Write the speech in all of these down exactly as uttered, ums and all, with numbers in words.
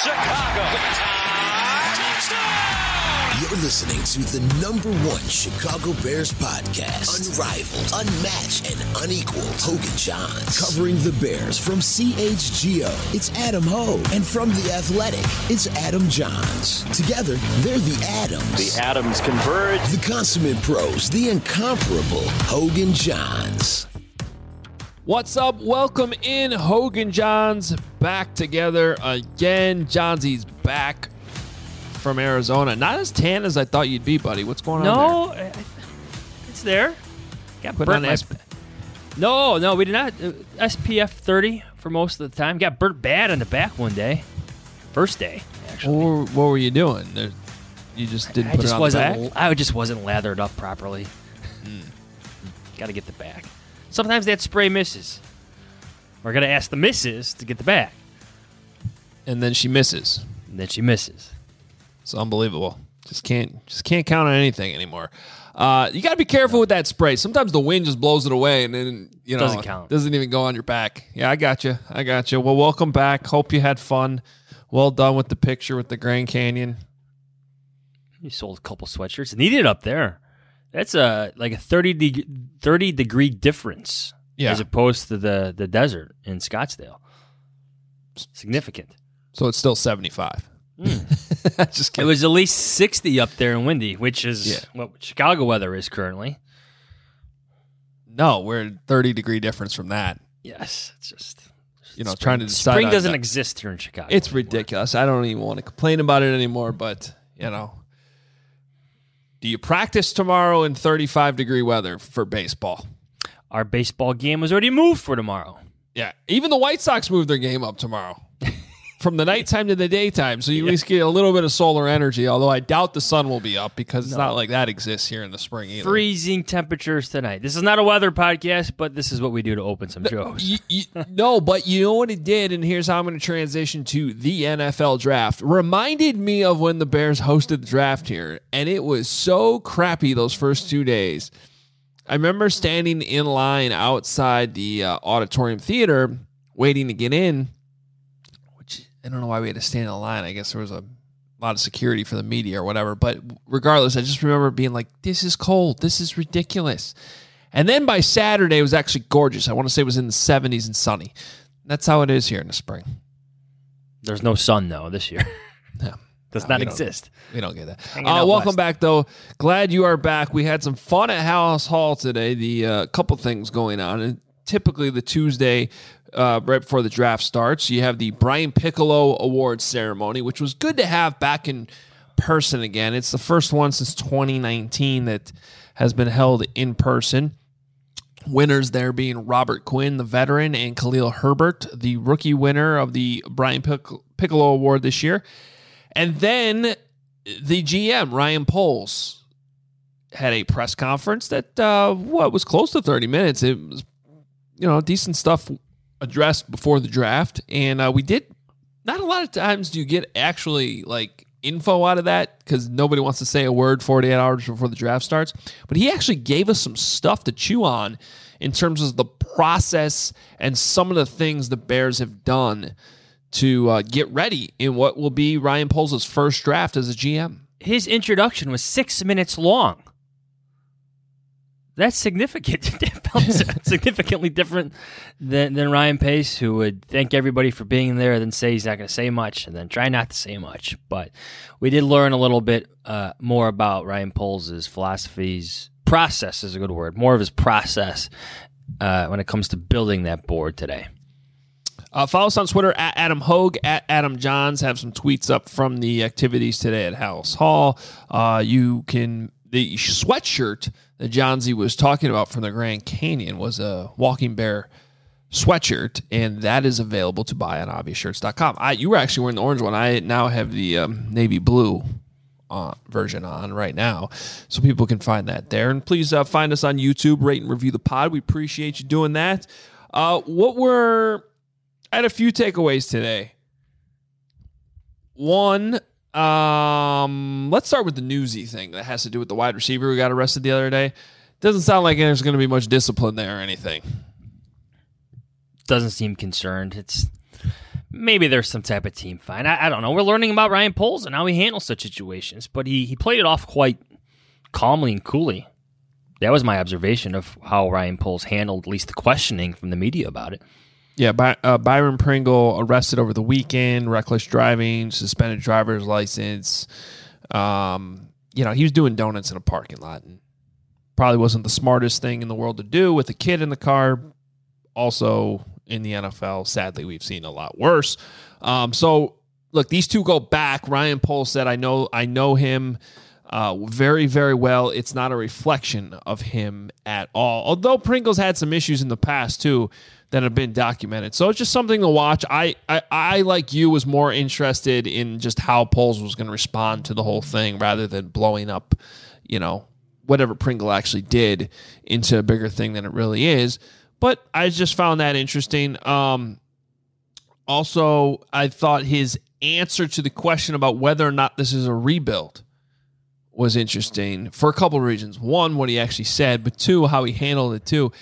Chicago. You're listening to the number one Chicago Bears podcast. Unrivaled, unmatched, and unequaled. Hogan Johns. Covering the Bears from C H G O, it's Adam Hogue. And from The Athletic, it's Adam Johns. Together, they're the Adams. The Adams converge. The consummate pros, the incomparable Hogan Johns. What's up? Welcome in, Hogan Johns. Back together again. Johnsy's back from Arizona. Not as tan as I thought you'd be, buddy. What's going no, on there? No, it's there. Got Put burnt on my- S- No, no, we did not. Uh, S P F thirty for most of the time. Got burnt bad on the back one day. First day, actually. What were, what were you doing? There- You just didn't I put just it on wasn't. the back? I just wasn't lathered up properly. Mm. Got to get the back. Sometimes that spray misses. We're gonna ask the misses to get the back, And then she misses. and then she misses. It's unbelievable. Just can't just can't count on anything anymore. Uh, you got to be careful with that spray. Sometimes the wind just blows it away, and then you know Doesn't count. doesn't even go on your back. Yeah, I got you. I got you. Well, welcome back. Hope you had fun. Well done with the picture with the Grand Canyon. You sold a couple sweatshirts. Needed up there. That's a like a thirty, de- thirty degree difference Yeah. as opposed to the, the desert in Scottsdale. Significant. So it's still seventy-five. Just It kidding. was at least sixty up there in windy, which is Yeah. what Chicago weather is currently. No, we're a thirty degree difference from that. Yes, it's just You know, spring, trying to decide spring on doesn't that. exist here in Chicago. It's anymore. ridiculous. I don't even want to complain about it anymore, but, you know. Do you practice tomorrow in thirty-five degree weather for baseball? Our baseball game was already moved for tomorrow. Yeah. Even the White Sox moved their game up tomorrow from the nighttime to the daytime. So you at least get a little bit of solar energy, although I doubt the sun will be up because it's No. not like that exists here in the spring either. Freezing temperatures tonight. This is not a weather podcast, but this is what we do to open some shows. You, you, no, but you know what it did, and here's how I'm going to transition to the N F L draft. Reminded me of when the Bears hosted the draft here, and it was so crappy those first two days. I remember standing in line outside the uh, auditorium theater waiting to get in, which I don't know why we had to stand in line. I guess there was a lot of security for the media or whatever. But regardless, I just remember being like, this is cold. This is ridiculous. And then by Saturday, it was actually gorgeous. I want to say it was in the seventies and sunny. That's how it is here in the spring. There's no sun, though, this year. Yeah. Does No, not we don't- exist. We don't get that. Hanging Uh, out welcome west. back, though. Glad you are back. We had some fun at House Hall today. The uh, couple things going on. And typically the Tuesday uh, right before the draft starts, you have the Brian Piccolo Awards ceremony, which was good to have back in person again. It's the first one since twenty nineteen that has been held in person. Winners there being Robert Quinn, the veteran, and Khalil Herbert, the rookie winner of the Brian Pic- Piccolo Award this year. And then the G M, Ryan Poles, had a press conference that, uh, what, was close to thirty minutes. It was, you know, decent stuff addressed before the draft. And uh, we did, not a lot of times do you get actually, like, info out of that because nobody wants to say a word forty-eight hours before the draft starts. But he actually gave us some stuff to chew on in terms of the process and some of the things the Bears have done to uh, get ready in what will be Ryan Poles' first draft as a G M. His introduction was six minutes long. That's significant. Significantly different than, than Ryan Pace, who would thank everybody for being there, then say he's not going to say much, and then try not to say much. But we did learn a little bit uh, more about Ryan Poles' philosophies. Process is a good word. More of his process uh, when it comes to building that board today. Uh, follow us on Twitter at Adam Hogue, at Adam Johns. Have some tweets up from the activities today at House Hall. Uh, you can, the sweatshirt that Johnsy was talking about from the Grand Canyon was a Walking Bear sweatshirt, and that is available to buy on obvious shirts dot com. I, you were actually wearing the orange one. I now have the um, navy blue uh, version on right now, so people can find that there. And please uh, find us on YouTube, rate and review the pod. We appreciate you doing that. Uh, what were... I had a few takeaways today. One, um, let's start with the newsy thing that has to do with the wide receiver who got arrested the other day. Doesn't sound like there's going to be much discipline there or anything. Doesn't seem concerned. It's maybe there's some type of team fine. I, I don't know. We're learning about Ryan Poles and how he handles such situations, but he, he played it off quite calmly and coolly. That was my observation of how Ryan Poles handled at least the questioning from the media about it. Yeah, By, uh, Byron Pringle arrested over the weekend, reckless driving, suspended driver's license. Um, you know, he was doing donuts in a parking lot, and probably wasn't the smartest thing in the world to do with a kid in the car. Also, in the N F L, sadly, we've seen a lot worse. Um, so, look, these two go back. Ryan Poles said, "I know, I know him uh, very, very well. It's not a reflection of him at all." Although Pringle's had some issues in the past too that have been documented, so it's just something to watch. I, I, I like you, was more interested in just how Poles was going to respond to the whole thing rather than blowing up, you know, whatever Pringle actually did into a bigger thing than it really is. But I just found that interesting. Um, also, I thought his answer to the question about whether or not this is a rebuild was interesting for a couple of reasons. One, what he actually said, but two, how he handled it too.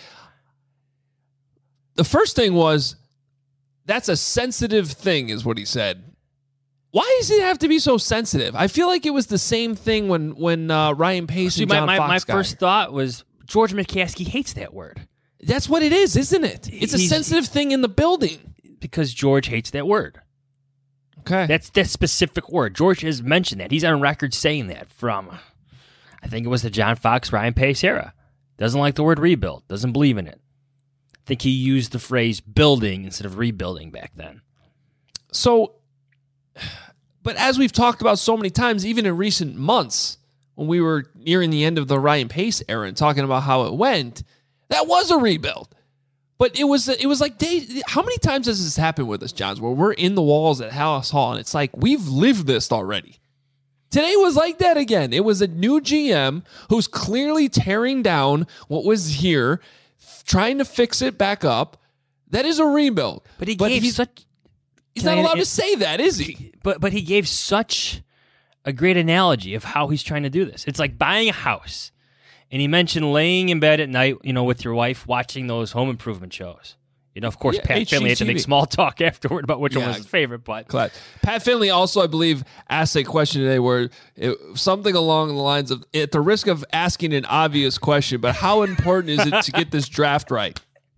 The first thing was, that's a sensitive thing, is what he said. Why does it have to be so sensitive? I feel like it was the same thing when when uh, Ryan Pace See, and John my, my, Fox my first thought was George McCaskey hates that word. That's what it is, isn't it? It's a He's, sensitive thing in the building. Because George hates that word. Okay. That's that specific word. George has mentioned that. He's on record saying that from, I think it was the John Fox, Ryan Pace era. Doesn't like the word rebuild. Doesn't believe in it. I think he used the phrase building instead of rebuilding back then. So, but as we've talked about so many times, even in recent months, when we were nearing the end of the Ryan Pace era and talking about how it went, that was a rebuild. But it was it was like, days, how many times has this happened with us, Johns, where we're in the walls at Halas Hall, and it's like, we've lived this already. Today was like that again. It was a new G M who's clearly tearing down what was here, trying to fix it back up. That is a rebuild. But he but gave he's, such... He's not allowed to say that, is he? But but he gave such a great analogy of how he's trying to do this. It's like buying a house. And he mentioned laying in bed at night, you know, with your wife, watching those home improvement shows. You know, of course, Yeah, Pat H G T V. Finley had to make small talk afterward about which Yeah. one was his favorite. But Glad. Pat Finley also, I believe, asked a question today where it, something along the lines of, at the risk of asking an obvious question, but how important is it to get this draft right?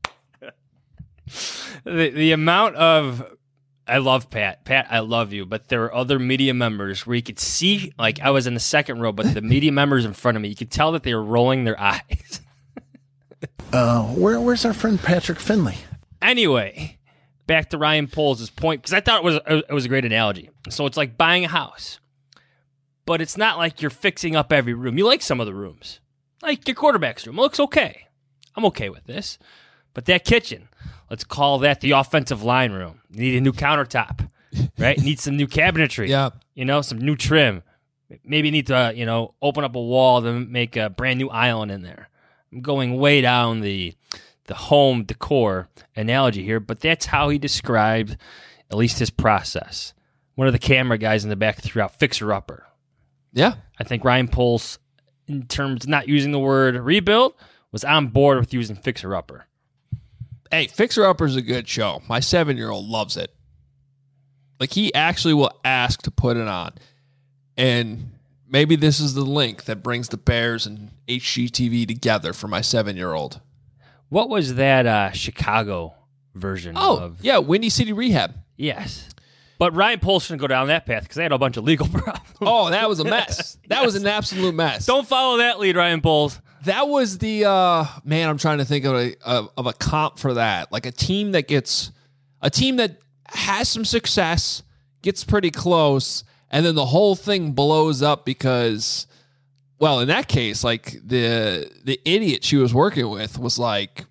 the the amount of... I love Pat. Pat, I love you. But there were other media members where you could see, like I was in the second row, but the media members in front of me, you could tell that they were rolling their eyes. Uh, where, where's our friend Patrick Finley? Anyway, back to Ryan Poles' point, because I thought it was it was a great analogy. So it's like buying a house, but it's not like you're fixing up every room. You like some of the rooms, like your quarterback's room. It looks okay. I'm okay with this, but that kitchen, let's call that the offensive line room. You need a new countertop, right? You need some new cabinetry. Yeah. You know, some new trim. Maybe you need to, uh, you know, open up a wall to make a brand new island in there. I'm going way down the the home decor analogy here, but that's how he described at least his process. One of the camera guys in the back threw out fixer-upper. Yeah. I think Ryan Poles, in terms of not using the word rebuild, was on board with using fixer-upper. Hey, Fixer Upper is a good show. My seven-year-old loves it. Like, he actually will ask to put it on. And maybe this is the link that brings the Bears and H G T V together for my seven-year-old. What was that uh, Chicago version Oh, of? yeah, Windy City Rehab. Yes. But Ryan Poles shouldn't go down that path because they had a bunch of legal problems. Oh, that was a mess. That was an absolute mess. Don't follow that lead, Ryan Poles. That was the, uh, man, I'm trying to think of a, of, of a comp for that. Like a team that gets, a team that has some success, gets pretty close, and then the whole thing blows up because, well, in that case, like the the idiot she was working with was like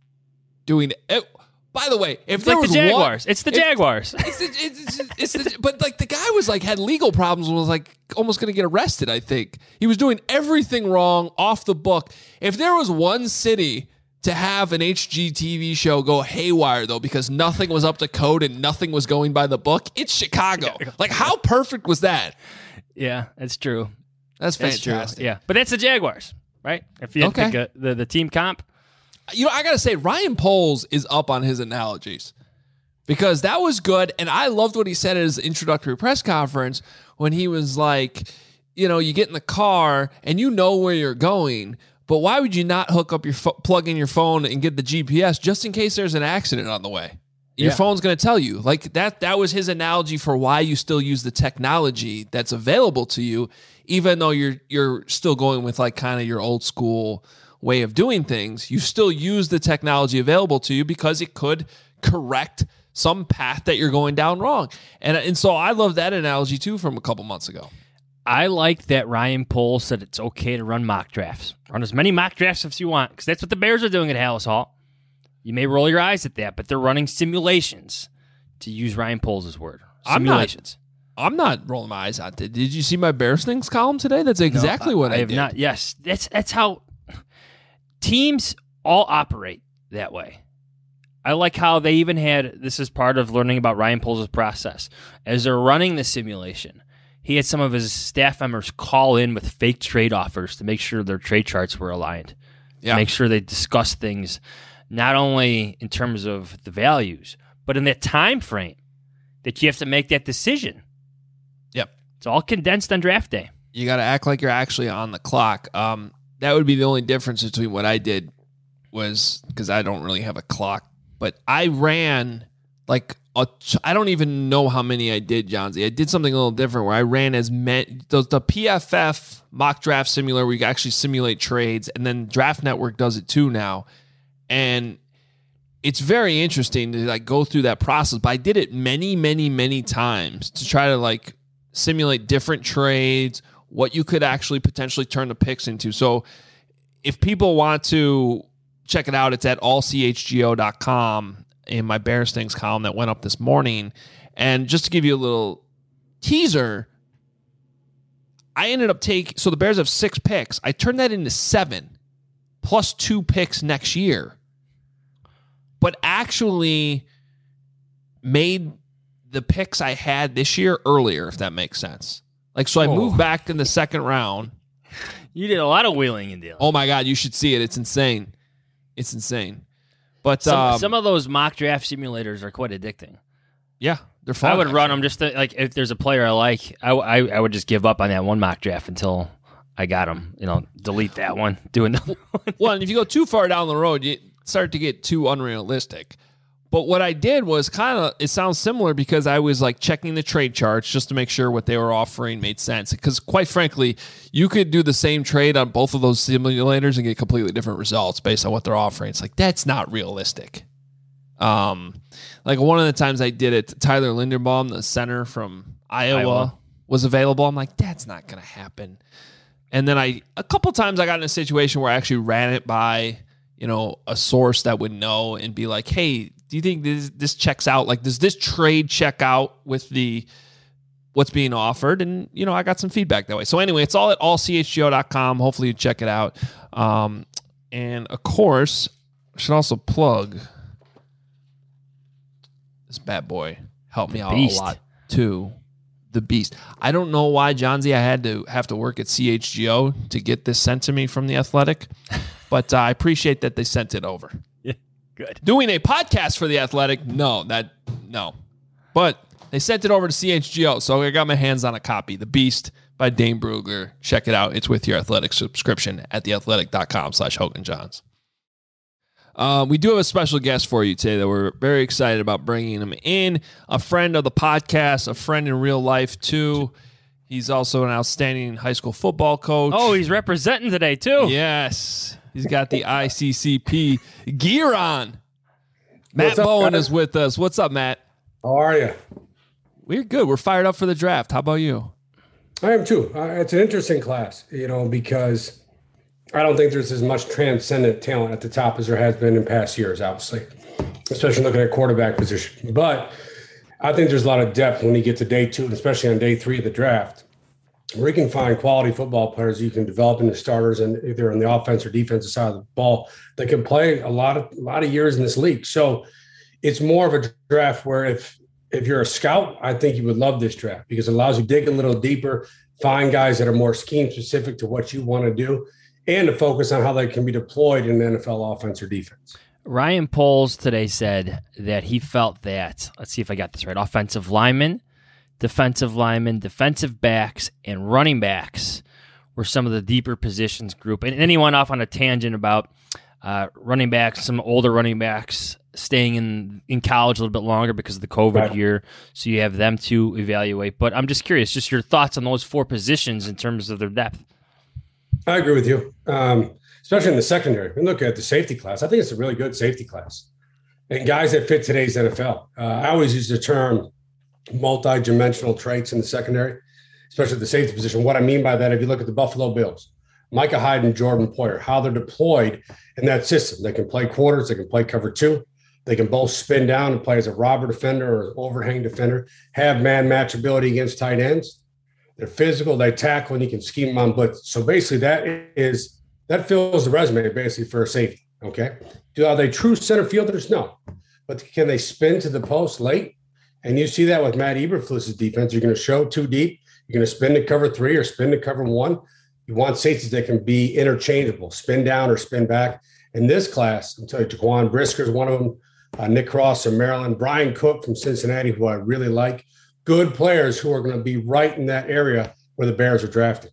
doing it. By the way, if It's there like was the Jaguars. one, it's the if- Jaguars. It's, the, it's, it's, it's the, but like the guy was like had legal problems and was like almost going to get arrested. I think he was doing everything wrong, off the book. If there was one city to have an H G T V show go haywire though, because nothing was up to code and nothing was going by the book, it's Chicago. Like how perfect was that? Yeah, that's true. That's That's fantastic. true. Yeah, but that's the Jaguars, right? If you had to Okay. pick a, the the team comp, You know, I gotta say, Ryan Poles is up on his analogies. because that was good. And I loved what he said at his introductory press conference when he was like, you know, you get in the car and you know where you're going, but why would you not hook up your fo- plug in your phone and get the G P S just in case there's an accident on the way? Your yeah. phone's going to tell you. Like that that was his analogy for why you still use the technology that's available to you, even though you're you're still going with like kind of your old school way of doing things. You still use the technology available to you because it could correct some path that you're going down wrong. And and so I love that analogy too from a couple months ago. I like that Ryan Poles said it's okay to run mock drafts. Run as many mock drafts as you want, because that's what the Bears are doing at Halas Hall. You may roll your eyes at that, but they're running simulations, to use Ryan Poles' word. Simulations. I'm not, I'm not rolling my eyes at it. Did you see my Bears Things column today? That's exactly no, what I, I have did. Not. Yes, that's that's how teams all operate that way. I like how they even had, this is part of learning about Ryan Poles' process. As they're running the simulation, he had some of his staff members call in with fake trade offers to make sure their trade charts were aligned. Yeah. To make sure they discuss things not only in terms of the values, but in that time frame that you have to make that decision. Yep. It's all condensed on draft day. You got to act like you're actually on the clock. Um, that would be the only difference between what I did was, because I don't really have a clock, but I ran like, a, I don't even know how many I did, Johnsy. I did something a little different where I ran as many, those, the P F F mock draft simulator where you can actually simulate trades, and then Draft Network does it too now. And it's very interesting to like go through that process, but I did it many, many, many times to try to like simulate different trades, what you could actually potentially turn the picks into. So if people want to check it out, it's at all c h g o dot com in my Bears Things column that went up this morning. And just to give you a little teaser, I ended up taking, so the Bears have six picks. I turned that into seven plus two picks next year, but actually made the picks I had this year earlier, if that makes sense. Like, so I oh. moved back in the second round. You did a lot of wheeling and dealing. Oh my God, you should see it. It's insane. It's insane. But some, um, some of those mock draft simulators are quite addicting. Yeah, they're fun. I would actually. run them just to, like, if there's a player I like, I, I, I would just give up on that one mock draft until I got him. You know, delete that one, do another one. Well, and if you go too far down the road, you start to get too unrealistic. But what I did was kind of, it sounds similar because I was like checking the trade charts just to make sure what they were offering made sense. Because quite frankly, you could do the same trade on both of those simulators and get completely different results based on what they're offering. It's like, that's not realistic. Um, like one of the times I did it, Tyler Linderbaum, the center from Iowa, Iowa. was available. I'm like, that's not going to happen. And then I, a couple times I got in a situation where I actually ran it by, you know, a source that would know and be like, hey, do you think this this checks out? Like, does this trade check out with the what's being offered? And, you know, I got some feedback that way. So anyway, it's all at all c h g o dot com. Hopefully you check it out. Um, and, of course, I should also plug this bad boy. Helped me out Beast. a lot, too. The Beast. I don't know why, Johnsy, I had to have to work at C H G O to get this sent to me from The Athletic. But uh, I appreciate that they sent it over. Good. Doing a podcast for The Athletic? No, that no. But they sent it over to C H G O, so I got my hands on a copy. The Beast by Dane Brugler. Check it out. It's with your Athletic subscription at theathletic.com slash Hogan Johns. Uh, we do have a special guest for you today that we're very excited about bringing him in. A friend of the podcast, a friend in real life, too. He's also an outstanding high school football coach. Oh, he's representing today, too. Yes. He's got the I C C P gear on. Matt up, Bowen guys? is with us. What's up, Matt? How are you? We're good. We're fired up for the draft. How about you? I am too. Uh, it's an interesting class, you know, because I don't think there's as much transcendent talent at the top as there has been in past years, obviously, especially looking at quarterback position. But I think there's a lot of depth when you get to day two, and especially on day three of the draft, where you can find quality football players you can develop into starters, and either on the offense or defensive side of the ball that can play a lot of a lot of years in this league. So it's more of a draft where if if you're a scout, I think you would love this draft because it allows you to dig a little deeper, find guys that are more scheme specific to what you want to do, and to focus on how they can be deployed in an N F L offense or defense. Ryan Poles today said that he felt that, let's see if I got this right, offensive linemen, defensive linemen, defensive backs, and running backs were some of the deeper positions group. And then he went off on a tangent about uh, running backs, some older running backs staying in, in college a little bit longer because of the COVID Right. year. So you have them to evaluate. But I'm just curious, just your thoughts on those four positions in terms of their depth. I agree with you, um, especially in the secondary. And look at the safety class. I think it's a really good safety class. And guys that fit today's N F L. Uh, I always use the term multi-dimensional traits in the secondary, especially the safety position. What I mean by that, if you look at the Buffalo Bills, Micah Hyde and Jordan Poyer, how they're deployed in that system. They can play quarters, they can play cover two, they can both spin down and play as a robber defender or overhang defender, have man match ability against tight ends. They're physical, they tackle, and you can scheme them on blitz. So basically that is, that fills the resume basically for a safety, okay? Do, are they true center fielders? No. But can they spin to the post late? And you see that with Matt Eberflus's defense. You're going to show two deep. You're going to spin to cover three or spin to cover one. You want safeties that can be interchangeable, spin down or spin back. In this class, I'll tell you, Jaquan Brisker is one of them, uh, Nick Cross from Maryland, Brian Cook from Cincinnati, who I really like. Good players who are going to be right in that area where the Bears are drafted.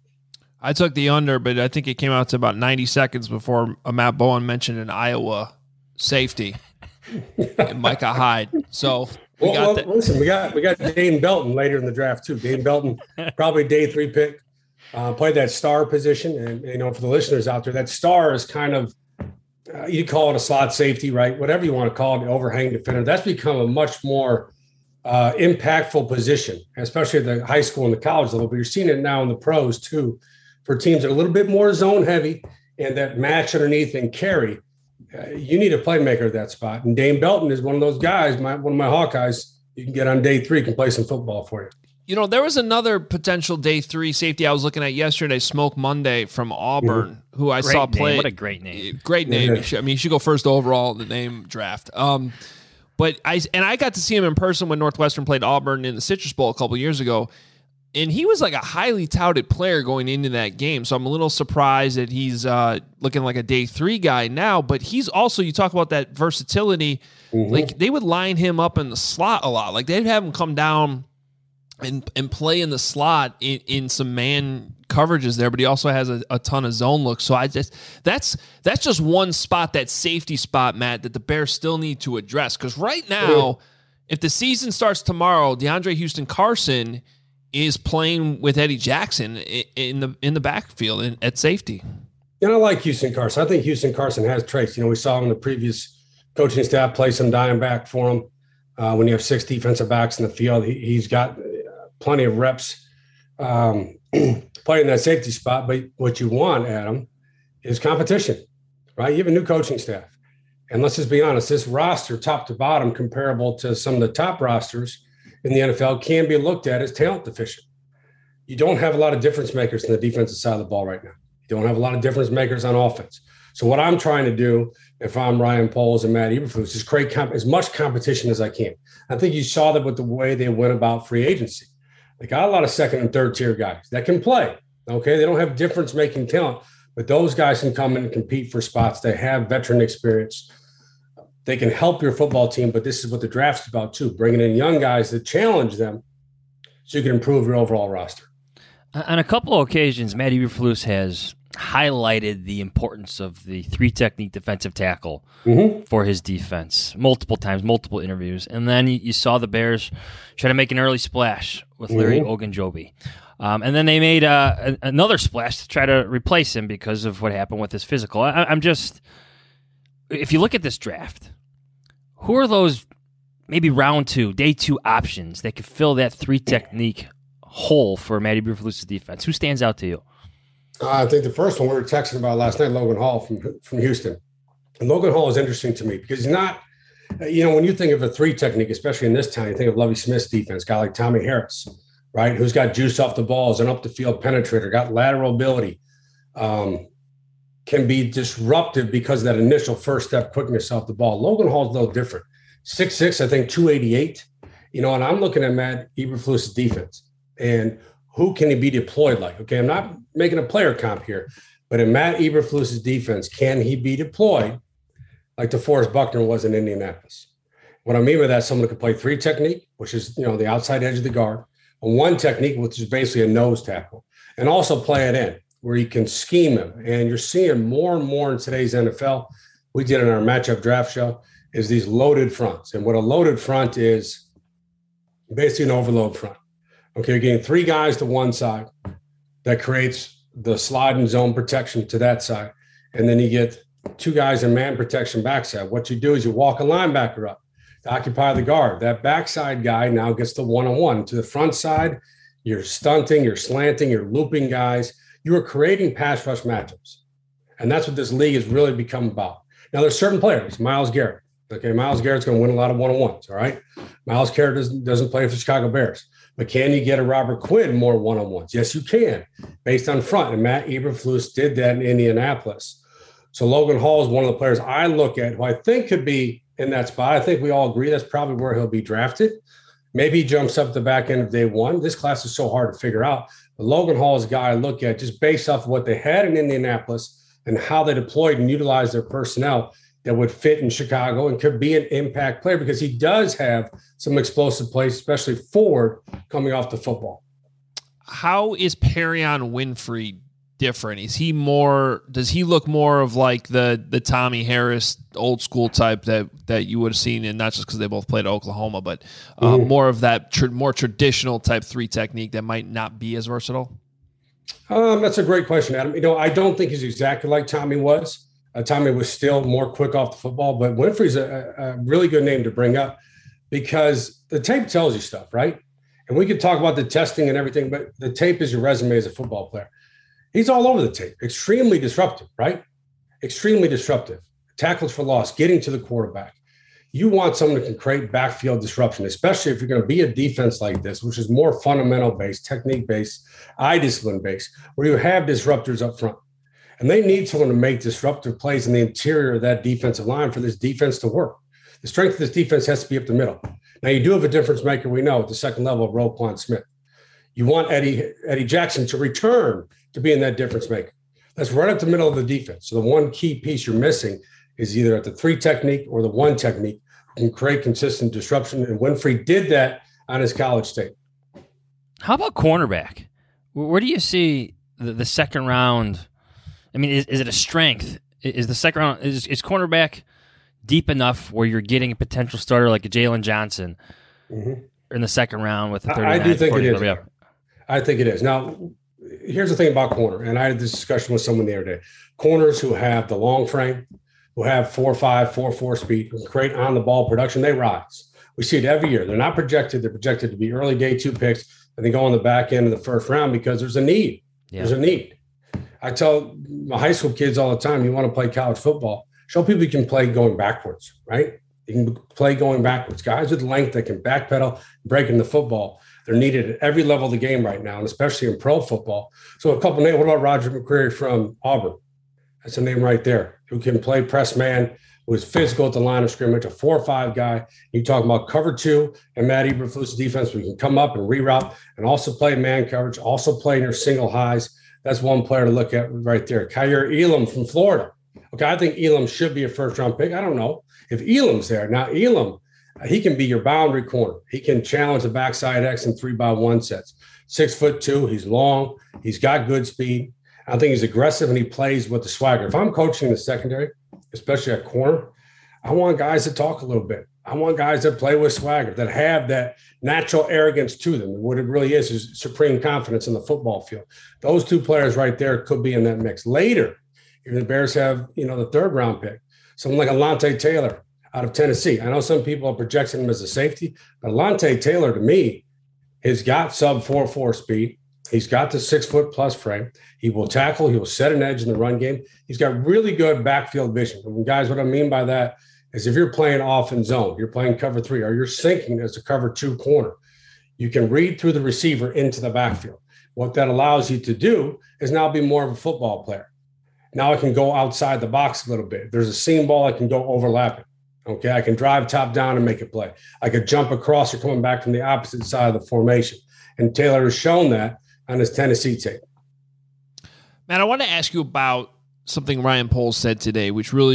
I took the under, but I think it came out to about ninety seconds before uh, Matt Bowen mentioned an Iowa safety and Micah Hyde. So we well, got well, that. Listen, we got we got Dane Belton later in the draft too. Dane Belton, probably day three pick, uh, played that star position. And you know, for the listeners out there, that star is kind of uh, you call it a slot safety, right? Whatever you want to call it, the overhang defender. That's become a much more uh, impactful position, especially at the high school and the college level. But you're seeing it now in the pros too, for teams that are a little bit more zone heavy and that match underneath and carry. Uh, you need a playmaker at that spot. And Dane Belton is one of those guys, my, one of my Hawkeyes, you can get on day three, can play some football for you. You know, there was another potential day three safety I was looking at yesterday, Smoke Monday from Auburn, mm-hmm. who I great saw name. play. What a great name. Great name. Yeah. Should, I mean, he should go first overall in the name draft. Um, but I and I got to see him in person when Northwestern played Auburn in the Citrus Bowl a couple years ago. And he was like a highly touted player going into that game. So I'm a little surprised that he's uh, looking like a day three guy now. But he's also, you talk about that versatility. Mm-hmm. Like they would line him up in the slot a lot. Like they'd have him come down and and play in the slot in, in some man coverages there. But he also has a, a ton of zone looks. So I just, that's, that's just one spot, that safety spot, Matt, that the Bears still need to address. Because right now, mm-hmm. if the season starts tomorrow, DeAndre Houston Carson is playing with Eddie Jackson in the in the backfield in, at safety. And I like Houston Carson. I think Houston Carson has traits. You know, we saw him in the previous coaching staff play some dime back for him. Uh, when you have six defensive backs in the field, he, he's got plenty of reps um, playing that safety spot. But what you want, Adam, is competition, right? You have a new coaching staff. And let's just be honest, this roster, top to bottom, comparable to some of the top rosters in the N F L, can be looked at as talent deficient. You don't have a lot of difference makers in the defensive side of the ball right now. You don't have a lot of difference makers on offense. So what I'm trying to do, if I'm Ryan Poles and Matt Eberflus, is create comp- as much competition as I can. I think you saw that with the way they went about free agency. They got a lot of second and third tier guys that can play. Okay, they don't have difference making talent, but those guys can come in and compete for spots. They have veteran experience. They can help your football team, but this is what the draft's about too, bringing in young guys that challenge them so you can improve your overall roster. On a couple of occasions, Matt Eberflus has highlighted the importance of the three-technique defensive tackle mm-hmm. for his defense multiple times, multiple interviews. And then you saw the Bears try to make an early splash with Larry mm-hmm. Ogunjobi. Um, and then they made uh, another splash to try to replace him because of what happened with his physical. I, I'm just... If you look at this draft, who are those maybe round two, day two options that could fill that three technique hole for Matty Eberflus's defense? Who stands out to you? Uh, I think the first one we were texting about last night, Logan Hall from from Houston. And Logan Hall is interesting to me because he's not, you know, when you think of a three technique, especially in this town, you think of Lovie Smith's defense, guy like Tommy Harris, right, who's got juice off the balls and up the field penetrator, got lateral ability. Um, can be disruptive because of that initial first step quickness off the ball. Logan Hall's a little different. six six, I think two eighty-eight. You know, and I'm looking at Matt Eberflus's defense and who can he be deployed like? Okay, I'm not making a player comp here, but in Matt Eberflus's defense, can he be deployed like DeForest Buckner was in Indianapolis. What I mean by that is someone who can play three technique, which is, you know, the outside edge of the guard, and one technique, which is basically a nose tackle, and also play it in where you can scheme him. And you're seeing more and more in today's N F L. We did in our matchup draft show is these loaded fronts. And what a loaded front is basically an overload front. Okay, you're getting three guys to one side that creates the slide and zone protection to that side. And then you get two guys in man protection backside. What you do is you walk a linebacker up to occupy the guard. That backside guy now gets the one-on-one. To the front side, you're stunting, you're slanting, you're looping guys. You are creating pass rush matchups. And that's what this league has really become about. Now, there's certain players, Myles Garrett. Okay, Myles Garrett's going to win a lot of one-on-ones, all right? Myles Garrett doesn't, doesn't play for the Chicago Bears. But can you get a Robert Quinn more one-on-ones? Yes, you can, based on front. And Matt Eberflus did that in Indianapolis. So Logan Hall is one of the players I look at who I think could be in that spot. I think we all agree that's probably where he'll be drafted. Maybe he jumps up the back end of day one. This class is so hard to figure out. But Logan Hall is a guy I look at just based off of what they had in Indianapolis and how they deployed and utilized their personnel that would fit in Chicago and could be an impact player because he does have some explosive plays, especially forward coming off the football. How is Perrion Winfrey different? Is he more, does he look more of like the the Tommy Harris old school type that that you would have seen, and not just because they both played at Oklahoma, but uh, mm-hmm. more of that tr- more traditional type three technique that might not be as versatile? Um, that's a great question, Adam. You know, I don't think he's exactly like Tommy was. Uh, Tommy was still more quick off the football, but Winfrey's a, a really good name to bring up because the tape tells you stuff, right? And we could talk about the testing and everything, but the tape is your resume as a football player. He's all over the tape. Extremely disruptive, right? Extremely disruptive. Tackles for loss, getting to the quarterback. You want someone who can create backfield disruption, especially if you're going to be a defense like this, which is more fundamental-based, technique-based, eye discipline-based, where you have disruptors up front. And they need someone to make disruptive plays in the interior of that defensive line for this defense to work. The strength of this defense has to be up the middle. Now, you do have a difference maker, we know, at the second level of Roquan Smith. You want Eddie, Eddie Jackson to return to being that difference maker. That's right up the middle of the defense. So the one key piece you're missing is either at the three technique or the one technique who can create consistent disruption. And Winfrey did that on his college tape. How about cornerback? Where do you see the, the second round? I mean, is, is it a strength? Is the second round, is, is cornerback deep enough where you're getting a potential starter like a Jalen Johnson mm-hmm. in the second round with the I do think it is. Yeah. I think it is. Now, here's the thing about corner, and I had this discussion with someone the other day. Corners who have the long frame, who have four five, four four speed, who can create on-the-ball production, they rise. We see it every year. They're not projected. They're projected to be early day two picks, and they go on the back end of the first round because there's a need. Yeah. There's a need. I tell my high school kids all the time, you want to play college football, show people you can play going backwards, right? You can play going backwards. Guys with length that can backpedal, break in the football. They're needed at every level of the game right now, and especially in pro football. So a couple names. What about Roger McCreary from Auburn? That's a name right there. Who can play press man, who is physical at the line of scrimmage, a four or five guy. You talk about cover two and Matt Eberflus defense. We can come up and reroute and also play man coverage, also play in your single highs. That's one player to look at right there. Kaiir Elam from Florida. Okay, I think Elam should be a first-round pick. I don't know if Elam's there. Now, Elam, he can be your boundary corner. He can challenge the backside X in three by one sets. Six foot two, he's long. He's got good speed. I think he's aggressive and he plays with the swagger. If I'm coaching the secondary, especially at corner, I want guys to talk a little bit. I want guys that play with swagger, that have that natural arrogance to them. And what it really is is supreme confidence in the football field. Those two players right there could be in that mix. Later, if the Bears have, you know, the third round pick, someone like Alontae Taylor out of Tennessee. I know some people are projecting him as a safety, but Alontae Taylor, to me, has got sub four four speed. He's got the six-foot plus frame. He will tackle. He will set an edge in the run game. He's got really good backfield vision. And guys, what I mean by that is if you're playing off in zone, you're playing cover three, or you're sinking as a cover two corner, you can read through the receiver into the backfield. What that allows you to do is now be more of a football player. Now I can go outside the box a little bit. If there's a seam ball, I can go overlap it. Okay, I can drive top down and make a play. I could jump across or coming back from the opposite side of the formation. And Taylor has shown that on his Tennessee tape. Matt, I want to ask you about something Ryan Poles said today, which really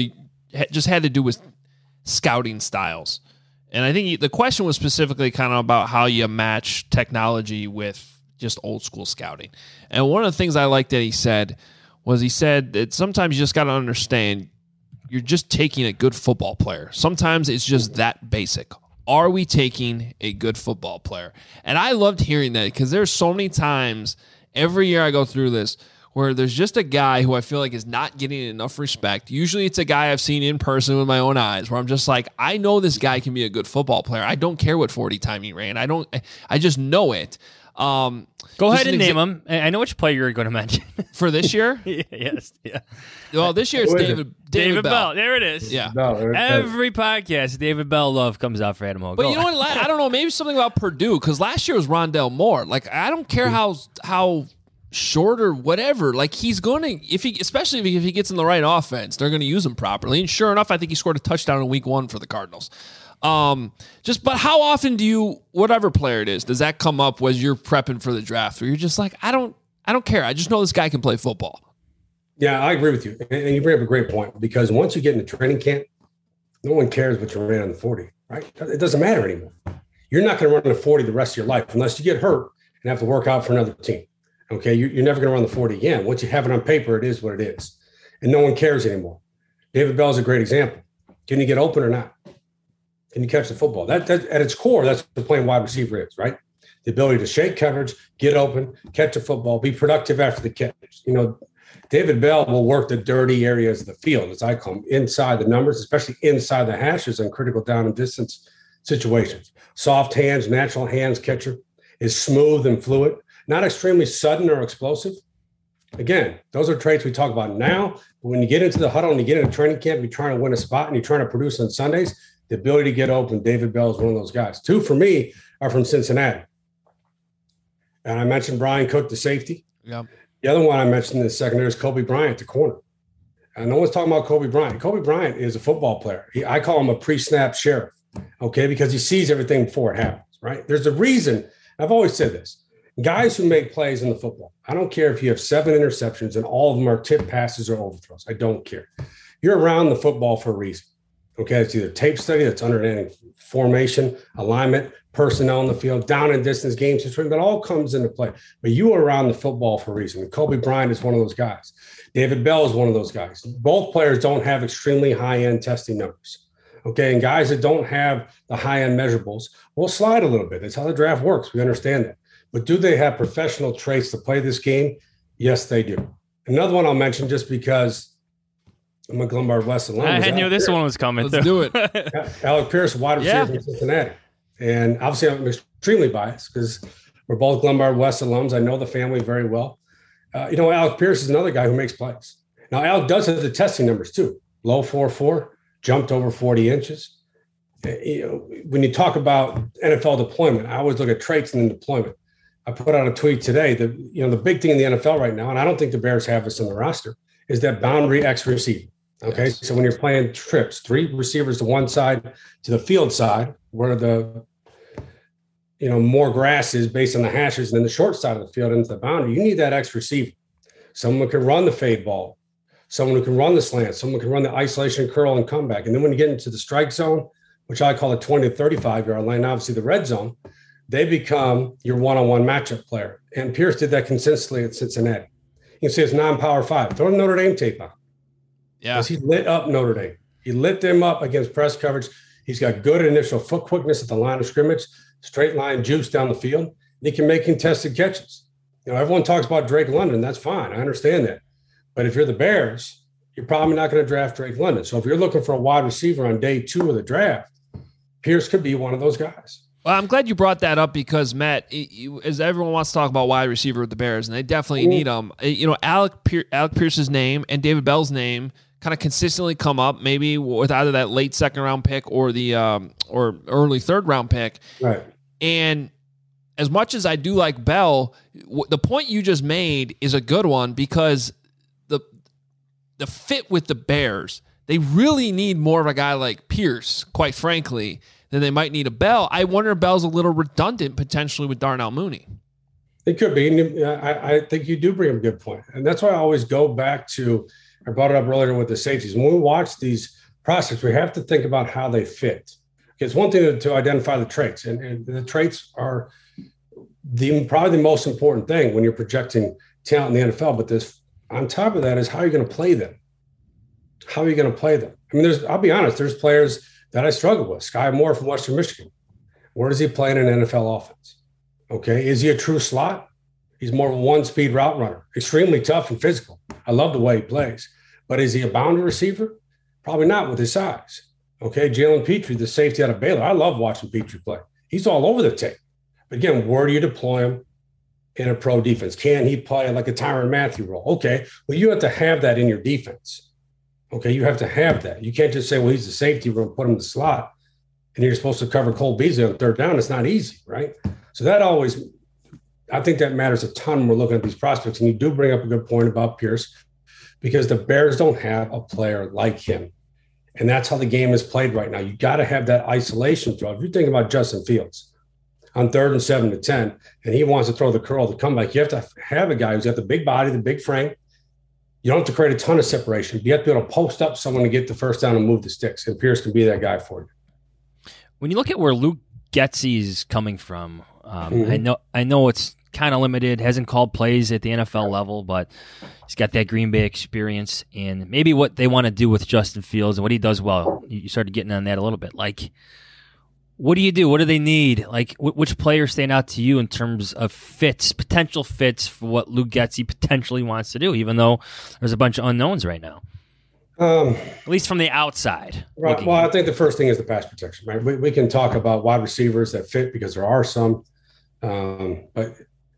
just had to do with scouting styles. And I think the question was specifically kind of about how you match technology with just old school scouting. And one of the things I liked that he said was he said that sometimes you just got to understand you're just taking a good football player. Sometimes it's just that basic. Are we taking a good football player? And I loved hearing that because there's so many times every year I go through this where there's just a guy who I feel like is not getting enough respect. Usually it's a guy I've seen in person with my own eyes where I'm just like, I know this guy can be a good football player. I don't care what forty time he ran. I don't, I just know it. Um, Go ahead and name him. I know which player you're going to mention. For this year? Yes. Yeah. Well, this year it's David, David, David Bell. Bell. There it is. Yeah. No, Every podcast, David Bell love comes out for Adam Hogue. But Go you know on. what? I don't know. Maybe something about Purdue because last year was Rondell Moore. Like, I don't care how how short or whatever. Like, he's going to, if he, especially if he gets in the right offense, they're going to use him properly. And sure enough, I think he scored a touchdown in week one for the Cardinals. Um, just, but how often do you, whatever player it is, does that come up when you're prepping for the draft where you're just like, I don't, I don't care. I just know this guy can play football. Yeah, I agree with you. And you bring up a great point because once you get into training camp, no one cares what you ran on the forty, right? It doesn't matter anymore. You're not going to run the forty the rest of your life unless you get hurt and have to work out for another team. Okay. You're never going to run the forty again. Once you have it on paper, it is what it is. And no one cares anymore. David Bell is a great example. Can you get open or not? Can you catch the football? That, that at its core, that's what playing wide receiver is, right? The ability to shake coverage, get open, catch a football, be productive after the catch. You know, David Bell will work the dirty areas of the field, as I call them, inside the numbers, especially inside the hashes on critical down and distance situations. Soft hands, natural hands catcher is smooth and fluid, not extremely sudden or explosive. Again, those are traits we talk about now. But when you get into the huddle and you get into training camp, you're trying to win a spot and you're trying to produce on Sundays, the ability to get open, David Bell is one of those guys. Two for me are from Cincinnati. And I mentioned Brian Cook, the safety. Yeah. The other one I mentioned in the secondary is Kobe Bryant, the corner. And no one's talking about Kobe Bryant. Kobe Bryant is a football player. He, I call him a pre-snap sheriff, okay, because he sees everything before it happens, right? There's a reason. I've always said this. Guys who make plays in the football, I don't care if you have seven interceptions and all of them are tip passes or overthrows. I don't care. You're around the football for a reason. Okay, it's either tape study, that's understanding formation, alignment, personnel in the field, down and distance, game situation, that all comes into play. But you are around the football for a reason. And Kobe Bryant is one of those guys. David Bell is one of those guys. Both players don't have extremely high-end testing numbers. Okay, and guys that don't have the high-end measurables will slide a little bit. That's how the draft works. We understand that. But do they have professional traits to play this game? Yes, they do. Another one I'll mention just because I'm a Glenbard West alum. I knew this Pierce. one was coming. Let's do it. Alec Pierce, wide receiver Yeah. from Cincinnati. And obviously I'm extremely biased because we're both Glenbard West alums. I know the family very well. Uh, you know, Alec Pierce is another guy who makes plays. Now, Alec does have the testing numbers too. Low four four, jumped over forty inches. Uh, you know, when you talk about N F L deployment, I always look at traits in the deployment. I put out a tweet today that, you know, the big thing in the N F L right now, and I don't think the Bears have this on the roster, is that boundary X receiver. Okay. Yes. So when you're playing trips, three receivers to one side, to the field side, where the, you know, more grass is based on the hashes, and then the short side of the field into the boundary, you need that X receiver. Someone who can run the fade ball, someone who can run the slant, someone who can run the isolation curl and comeback. And then when you get into the strike zone, which I call a twenty to thirty-five yard line, obviously the red zone, they become your one-on-one matchup player. And Pierce did that consistently at Cincinnati. You can see it's non-power five. Throw the Notre Dame tape on. Yeah. He lit up Notre Dame. He lit them up against press coverage. He's got good initial foot quickness at the line of scrimmage, straight line juice down the field. He can make contested catches. You know, everyone talks about Drake London. That's fine. I understand that. But if you're the Bears, you're probably not going to draft Drake London. So if you're looking for a wide receiver on day two of the draft, Pierce could be one of those guys. Well, I'm glad you brought that up because, Matt, it, it, as everyone wants to talk about wide receiver with the Bears, and they definitely mm-hmm. need them. You know, Alec, Pier- Alec Pierce's name and David Bell's name kind of consistently come up, maybe with either that late second round pick or the um, or early third round pick. Right. And as much as I do like Bell, w- the point you just made is a good one because the the fit with the Bears, they really need more of a guy like Pierce, quite frankly, than they might need a Bell. I wonder if Bell's a little redundant potentially with Darnell Mooney. It could be. And I, I think you do bring up a good point. And that's why I always go back to, I brought it up earlier with the safeties. When we watch these prospects, we have to think about how they fit. It's one thing to, to identify the traits, and, and the traits are the probably the most important thing when you're projecting talent in the N F L. But this, on top of that, is how you're going to play them. How are you going to play them? I mean, there's. I'll be honest. There's players that I struggle with. Sky Moore from Western Michigan. Where does he play in an N F L offense? Okay, is he a true slot? He's more of a one-speed route runner, extremely tough and physical. I love the way he plays. But is he a boundary receiver? Probably not with his size. Okay, Jalen Petrie, the safety out of Baylor. I love watching Petrie play. He's all over the tape. But again, where do you deploy him in a pro defense? Can he play like a Tyrann Mathieu role? Okay, well, you have to have that in your defense. Okay, you have to have that. You can't just say, well, he's the safety, we're going to put him in the slot, and you're supposed to cover Cole Beasley on third down. It's not easy, right? So that always, I think that matters a ton when we're looking at these prospects. And you do bring up a good point about Pierce, because the Bears don't have a player like him. And that's how the game is played right now. You got to have that isolation throw. If you're thinking about Justin Fields on third and seven to ten, and he wants to throw the curl, the comeback, you have to have a guy who's got the big body, the big frame. You don't have to create a ton of separation. You have to be able to post up someone to get the first down and move the sticks. And Pierce can be that guy for you. When you look at where Luke Getsy is coming from, um, mm-hmm. I know I know it's kind of limited, hasn't called plays at the N F L level, but he's got that Green Bay experience, and maybe what they want to do with Justin Fields and what he does well. You started getting on that a little bit. Like, what do you do? What do they need? Like, which players stand out to you in terms of fits, potential fits for what Luke Getsy potentially wants to do, even though there's a bunch of unknowns right now? Um, At least from the outside. Right. Well, I think the first thing is the pass protection, right? We, we can talk about wide receivers that fit because there are some, um, but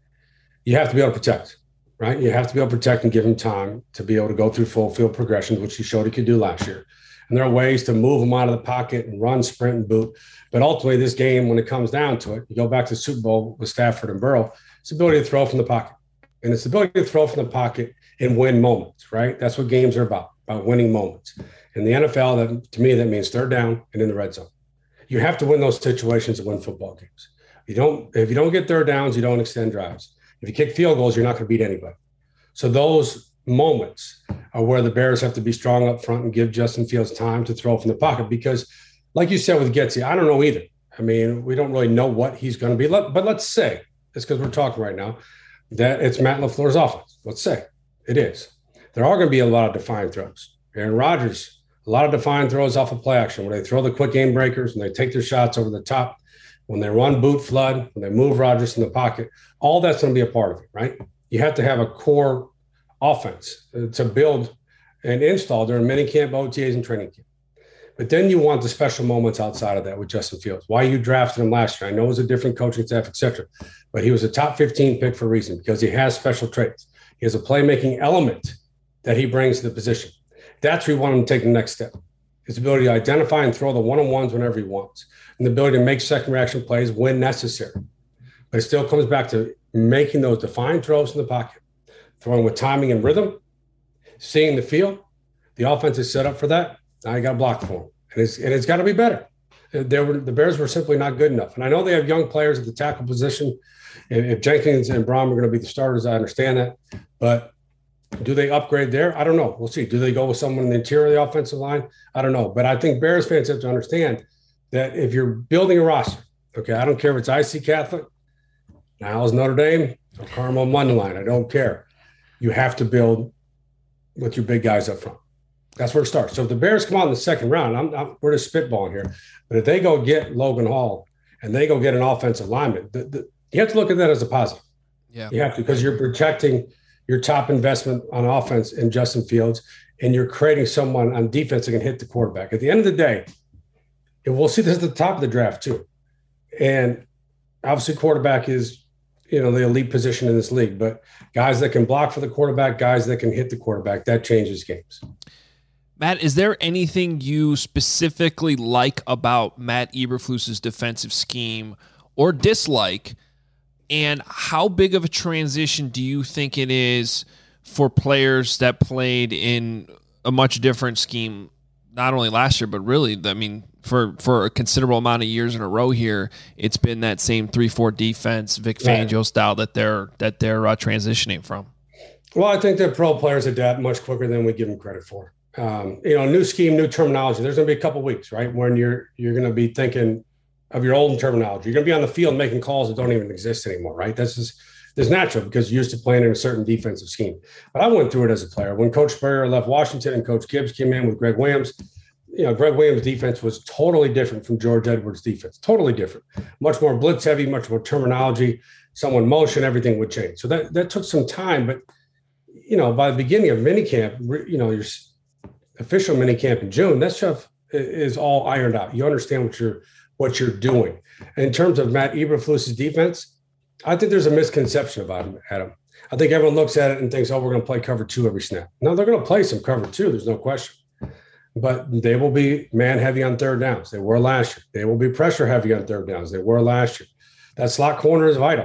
you have to be able to protect, right? You have to be able to protect and give him time to be able to go through full field progressions, which he showed he could do last year. And there are ways to move him out of the pocket and run, sprint, and boot. But ultimately, this game, when it comes down to it, you go back to the Super Bowl with Stafford and Burrow, it's the ability to throw from the pocket. And it's the ability to throw from the pocket and win moments, right? That's what games are about, about winning moments. In the N F L, that, to me, that means third down and in the red zone. You have to win those situations to win football games. You don't, if you don't get third downs, you don't extend drives. If you kick field goals, you're not going to beat anybody. So those moments are where the Bears have to be strong up front and give Justin Fields time to throw from the pocket. Because, like you said with Getsy, I don't know either. I mean, we don't really know what he's going to be. But let's say, it's because we're talking right now, that it's Matt LaFleur's offense. Let's say it is. There are going to be a lot of defined throws. Aaron Rodgers, a lot of defined throws off of play action where they throw the quick game breakers and they take their shots over the top. When they run boot flood, when they move Rodgers in the pocket, all that's going to be a part of it, right? You have to have a core offense to build and install during minicamp, O T As, and training camp. But then you want the special moments outside of that with Justin Fields. Why you drafted him last year? I know it was a different coaching staff, et cetera, but he was a top fifteen pick for a reason because he has special traits. He has a playmaking element that he brings to the position. That's where we want him to take the next step. His ability to identify and throw the one-on-ones whenever he wants, and the ability to make second reaction plays when necessary. But it still comes back to making those defined throws in the pocket, throwing with timing and rhythm, seeing the field. The offense is set up for that. Now you got to block for him. And it's, and it's got to be better. They were, the Bears were simply not good enough. And I know they have young players at the tackle position. If, if Jenkins and Braun are going to be the starters, I understand that. But do they upgrade there? I don't know. We'll see. Do they go with someone in the interior of the offensive line? I don't know. But I think Bears fans have to understand that if you're building a roster, okay, I don't care if it's I C Catholic, Niles Notre Dame, or Carmel Mundelein, I don't care. You have to build with your big guys up front. That's where it starts. So if the Bears come out in the second round, I'm, I'm, we're just spitballing here, but if they go get Logan Hall and they go get an offensive lineman, the, the, you have to look at that as a positive. Yeah, you have to, because you're protecting your top investment on offense in Justin Fields, and you're creating someone on defense that can hit the quarterback. At the end of the day, and we'll see this at the top of the draft too. And obviously quarterback is, you know, the elite position in this league, but guys that can block for the quarterback, guys that can hit the quarterback, that changes games. Matt, is there anything you specifically like about Matt Eberflus's defensive scheme or dislike? And how big of a transition do you think it is for players that played in a much different scheme, not only last year, but really, I mean, for, for a considerable amount of years in a row here, it's been that same three four defense, Vic Fangio right. style that they're that they're uh, transitioning from? Well, I think that pro players adapt much quicker than we give them credit for. um, you know, new scheme, new terminology. There's going to be a couple weeks, right, when you're you're going to be thinking of your old terminology. You're going to be on the field making calls that don't even exist anymore, right? That's just that's natural because you're used to playing in a certain defensive scheme. But I went through it as a player. When Coach Spurrier left Washington and Coach Gibbs came in with Greg Williams, you know, Greg Williams' defense was totally different from George Edwards' defense. Totally different. Much more blitz heavy, much more terminology. Someone motion, everything would change. So that that took some time. But, you know, by the beginning of minicamp, you know, your official minicamp in June, that stuff is all ironed out. You understand what you're what you're doing. And in terms of Matt Eberflus's defense, I think there's a misconception about him, Adam. I think everyone looks at it and thinks, oh, we're going to play cover two every snap. No, they're going to play some cover two. There's no question. But they will be man heavy on third downs. They were last year. They will be pressure heavy on third downs. They were last year. That slot corner is vital.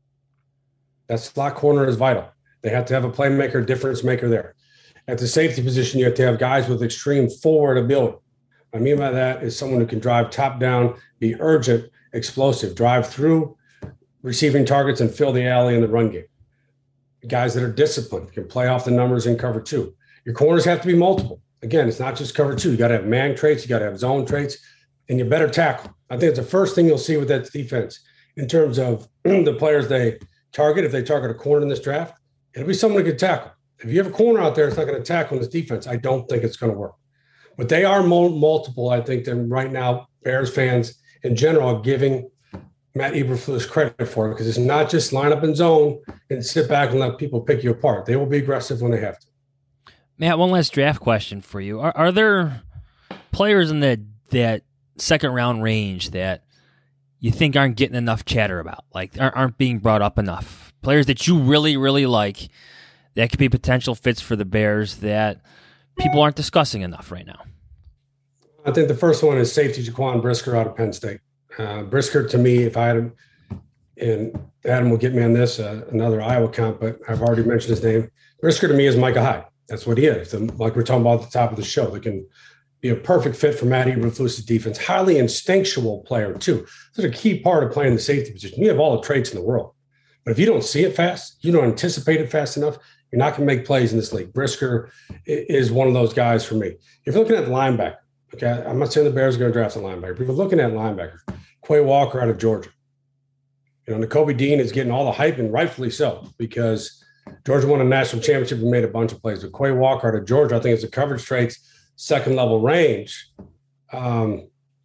That slot corner is vital. They have to have a playmaker, difference maker there. At the safety position, you have to have guys with extreme forward ability. What I mean by that is someone who can drive top down, be urgent, explosive, drive through receiving targets and fill the alley in the run game. Guys that are disciplined, can play off the numbers in cover two. Your corners have to be multiple. Again, it's not just cover two. You got to have man traits, you got to have zone traits, and you better tackle. I think it's the first thing you'll see with that defense in terms of the players they target. If they target a corner in this draft, it'll be someone who can tackle. If you have a corner out there that's not going to tackle in this defense, I don't think it's going to work. But they are mo- multiple, I think, than right now Bears fans in general are giving Matt Eberflus credit for it, because it's not just line up in zone and sit back and let people pick you apart. They will be aggressive when they have to. Matt, one last draft question for you. Are, are there players in that that second round range that you think aren't getting enough chatter about, like aren't, aren't being brought up enough? Players that you really, really like that could be potential fits for the Bears that people aren't discussing enough right now? I think the first one is safety Jaquan Brisker out of Penn State. Uh, Brisker, to me, if I had him, and Adam will get me on this, uh, another Iowa comp, but I've already mentioned his name. Brisker, to me, is Micah Hyde. That's what he is. And like we're talking about at the top of the show, they can be a perfect fit for Matt Eberflus's defense. Highly instinctual player, too. This is a key part of playing the safety position. You have all the traits in the world. But if you don't see it fast, you don't anticipate it fast enough, you're not going to make plays in this league. Brisker is one of those guys for me. If you're looking at linebacker, okay, I'm not saying the Bears are going to draft a linebacker, but if you're looking at linebacker, Quay Walker out of Georgia. You know, Nakobe Dean is getting all the hype, and rightfully so, because Georgia won a national championship and made a bunch of plays. But Quay Walker out of Georgia, I think it's a coverage traits, second level range um,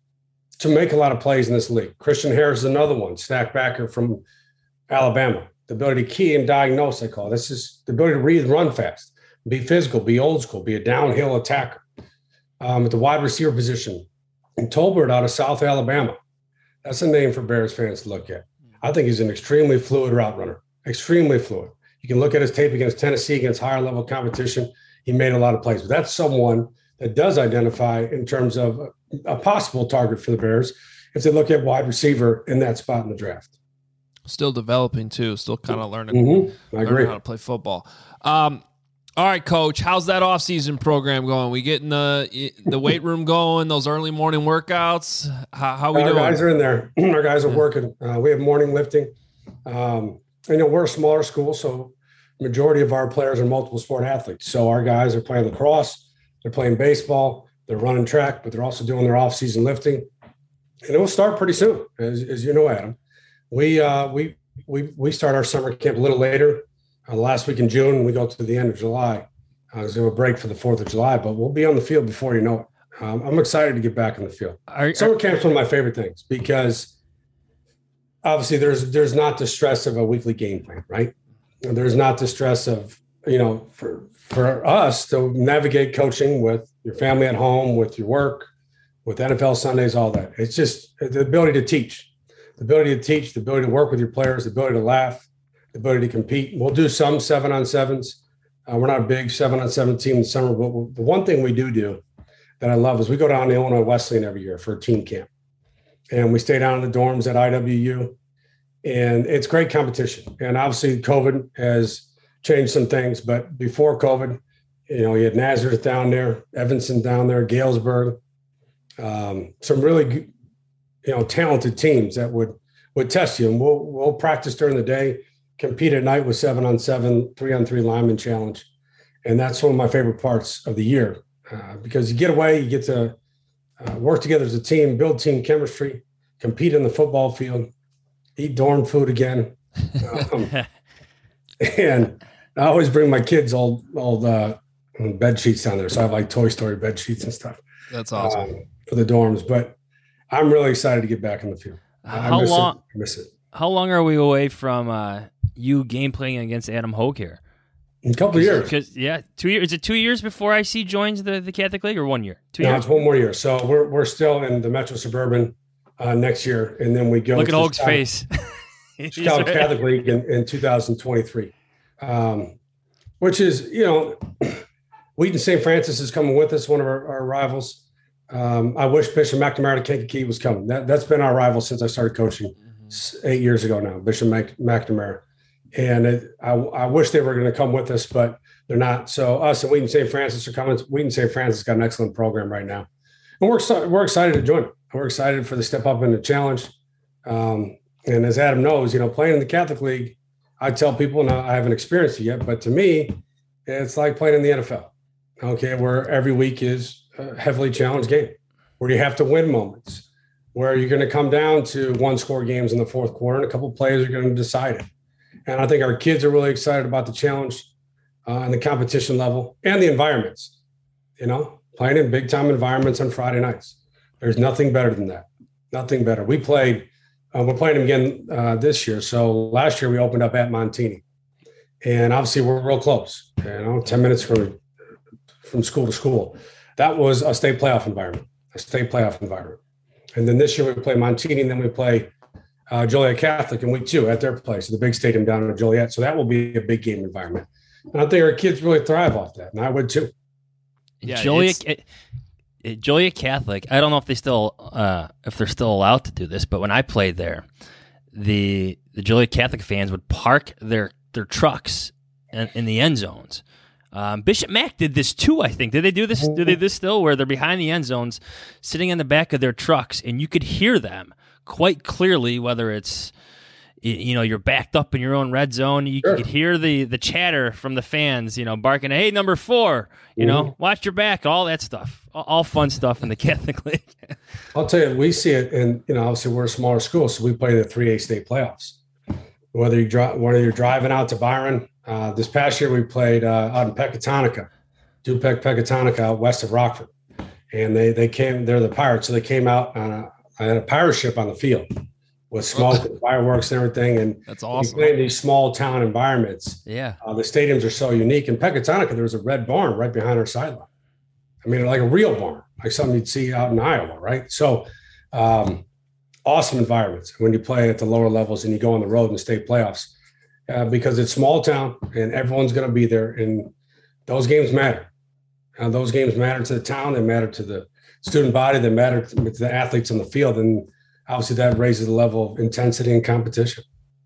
to make a lot of plays in this league. Christian Harris is another one, snack backer from Alabama. The ability to key and diagnose, I call it. This is the ability to read and run fast, be physical, be old school, be a downhill attacker. Um, at the wide receiver position, and Tolbert out of South Alabama. That's a name for Bears fans to look at. I think he's an extremely fluid route runner, extremely fluid. You can look at his tape against Tennessee, against higher level competition. He made a lot of plays. But that's someone that does identify in terms of a, a possible target for the Bears if they look at wide receiver in that spot in the draft. Still developing, too. Still kind of learning, mm-hmm. I learning agree. how to play football. Um, all right, Coach, how's that off-season program going? We getting the the weight room going, those early morning workouts? How, how we Our doing? guys are in there. Our guys are working. Uh, we have morning lifting. Um, you know, we're a smaller school, so majority of our players are multiple sport athletes. So our guys are playing lacrosse, they're playing baseball, they're running track, but they're also doing their off-season lifting. And it will start pretty soon, as, as you know, Adam. We uh, we we we start our summer camp a little later. Uh, last week in June, we go to the end of July. Uh, there's a break for the fourth of July, but we'll be on the field before you know it. Um, I'm excited to get back in the field. Are, summer are, camp's one of my favorite things because obviously there's there's not the stress of a weekly game plan, right? There's not the stress of, you know, for for us to navigate coaching with your family at home, with your work, with N F L Sundays, all that. It's just the ability to teach, the ability to teach, the ability to work with your players, the ability to laugh, the ability to compete. We'll do some seven on sevens. Uh, we're not a big seven on seven team in the summer, but the one thing we do do that I love is we go down to Illinois Wesleyan every year for a team camp. And we stay down in the dorms at I W U. And it's great competition. And obviously COVID has changed some things, but before COVID, you know, you had Nazareth down there, Evanston down there, Galesburg, um, some really, you know, talented teams that would, would test you. And we'll, we'll practice during the day, compete at night with seven on seven, three on three lineman challenge. And that's one of my favorite parts of the year. uh, because you get away, you get to uh, work together as a team, build team chemistry, compete in the football field, eat dorm food again. Um, and I always bring my kids old, old uh, bed sheets down there. So I have like Toy Story bed sheets and stuff. That's awesome. Um, for the dorms. But I'm really excited to get back in the field. How I miss long? It. I miss it. How long are we away from uh, you game playing against Adam Hogue here? In a couple of years. Because yeah, two years. Is it two years before I C joins the, the Catholic League, or one year? Two no, years. it's one more year. So we're we're still in the Metro Suburban uh, next year, and then we go. Look at to Hogue's Chicago, face. Chicago Catholic League in, in two thousand twenty-three, um, which is you know, Wheaton Saint Francis is coming with us, one of our, our rivals. Um, I wish Bishop McNamara to Kankakee was coming. That that's been our rival since I started coaching mm-hmm. eight years ago now. Bishop Mac, McNamara, and it, I I wish they were going to come with us, but they're not. So us and Wheaton Saint Francis are coming. Wheaton Saint Francis got an excellent program right now, and we're we're excited to join it. We're excited for the step up in the challenge. Um, and as Adam knows, you know, playing in the Catholic League, I tell people, and I haven't experienced it yet, but to me, it's like playing in the N F L. Okay, where every week is a heavily challenged game, where you have to win moments, where you're going to come down to one score games in the fourth quarter, and a couple of players are going to decide it. And I think our kids are really excited about the challenge uh, and the competition level and the environments. You know, playing in big time environments on Friday nights. There's nothing better than that. Nothing better. We played. Uh, we're playing them again uh, this year. So last year we opened up at Montini, and obviously we're real close. You know, ten minutes from from school to school. That was a state playoff environment. A state playoff environment. And then this year we play Montini, and then we play uh, Joliet Catholic in week two at their place, the big stadium down in Joliet. So that will be a big game environment. And I think our kids really thrive off that, and I would too. Yeah, Joliet, it, it, Joliet Catholic. I don't know if they still, uh, if they're still allowed to do this, but when I played there, the the Joliet Catholic fans would park their their trucks in, in the end zones. Um, Bishop Mac did this too, I think. Did they do this? Do they do this still, where they're behind the end zones, sitting in the back of their trucks, and you could hear them quite clearly, whether it's, you know, you're backed up in your own red zone. You sure. could hear the the chatter from the fans, you know, barking, "Hey, number four, you mm-hmm. know, watch your back," all that stuff. All, all fun stuff in the Catholic League. I'll tell you, we see it, and you know, obviously we're a smaller school, so we play the three A state playoffs. Whether you drive, whether you're driving out to Byron, uh, this past year we played uh, out in Pecatonica, Dupec Pecatonica, out west of Rockford, and they they came. They're the Pirates, so they came out on a, on a pirate ship on the field with smoke and fireworks and everything. And that's awesome. You play in these small town environments. Yeah, uh, the stadiums are so unique. In Pecatonica, there was a red barn right behind our sideline. I mean, like a real barn, like something you'd see out in Iowa, right? So. Um, Awesome environments when you play at the lower levels and you go on the road in the state playoffs uh, because it's small town and everyone's going to be there. And those games matter. Uh, those games matter to the town. They matter to the student body. They matter to, to the athletes on the field. And obviously that raises the level of intensity and competition.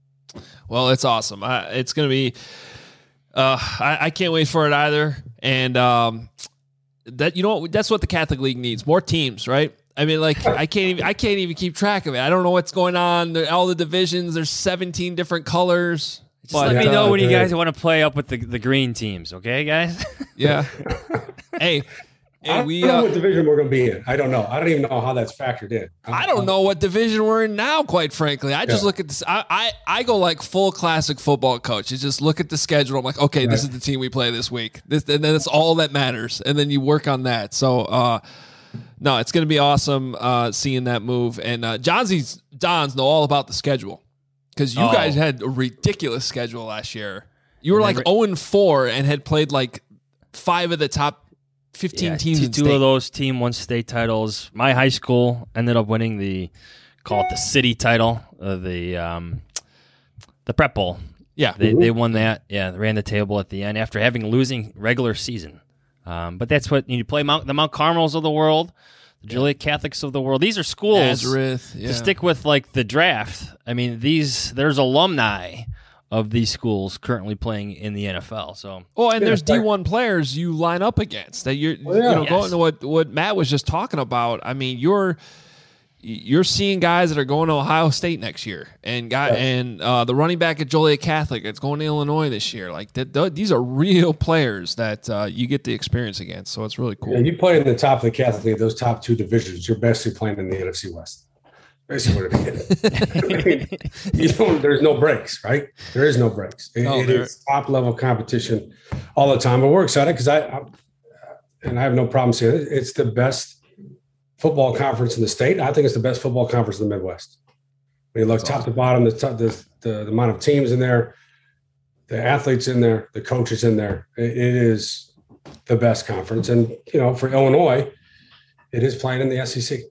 Well, it's awesome. I, it's going to be, uh, I, I can't wait for it either. And um, that, you know what, that's what the Catholic League needs, more teams, right? I mean, like I can't even I can't even keep track of it. I don't know what's going on. All the divisions, there's seventeen different colors. Just but, let me know uh, when you guys want to play up with the, the green teams, okay, guys? Yeah. Hey, I we, don't know uh, what division we're going to be in. I don't know. I don't even know how that's factored in. I don't know what division we're in now, quite frankly. I just yeah. look at this. I, I, I go like full classic football coach. You just look at the schedule. I'm like, okay, right. This is the team we play this week. This, and then it's all that matters. And then you work on that. So, uh, no, it's going to be awesome uh, seeing that move. And uh, Johnsy's Dons know all about the schedule because you oh. guys had a ridiculous schedule last year. You were like oh and four and had played like five of the top fifteen yeah, teams two, in two state. Of those team won state titles. My high school ended up winning the, call it the city title, uh, the um, the Prep Bowl. Yeah. They, they won that. Yeah, they ran the table at the end after having losing regular season. Um, but that's what you play Mount, the Mount Carmels of the world, the Joliet Catholics of the world. These are schools Nazareth, yeah. to stick with like the draft. I mean, these there's alumni of these schools currently playing in the N F L. So, oh, and yeah, there's D one players you line up against that you're, well, yeah. you know, yes. going to what what Matt was just talking about. I mean, you're you're seeing guys that are going to Ohio State next year, and guy, Yeah. and uh, the running back at Joliet Catholic that's going to Illinois this year. Like that, th- these are real players that uh, you get the experience against. So it's really cool. Yeah, you play in the top of the Catholic League, those top two divisions, you're basically playing in the N F C West. Basically what it is. I mean, you don't, there's no breaks, right? There is no breaks. It, No, it there- is top level competition all the time. But we're excited because I, I, and I have no problem saying it, it's the best football conference in the state. I think it's the best football conference in the Midwest. When you look That's top awesome. to bottom, the, top, the, the the amount of teams in there, the athletes in there, the coaches in there, it, it is the best conference. And, you know, for Illinois, it is playing in the S E C.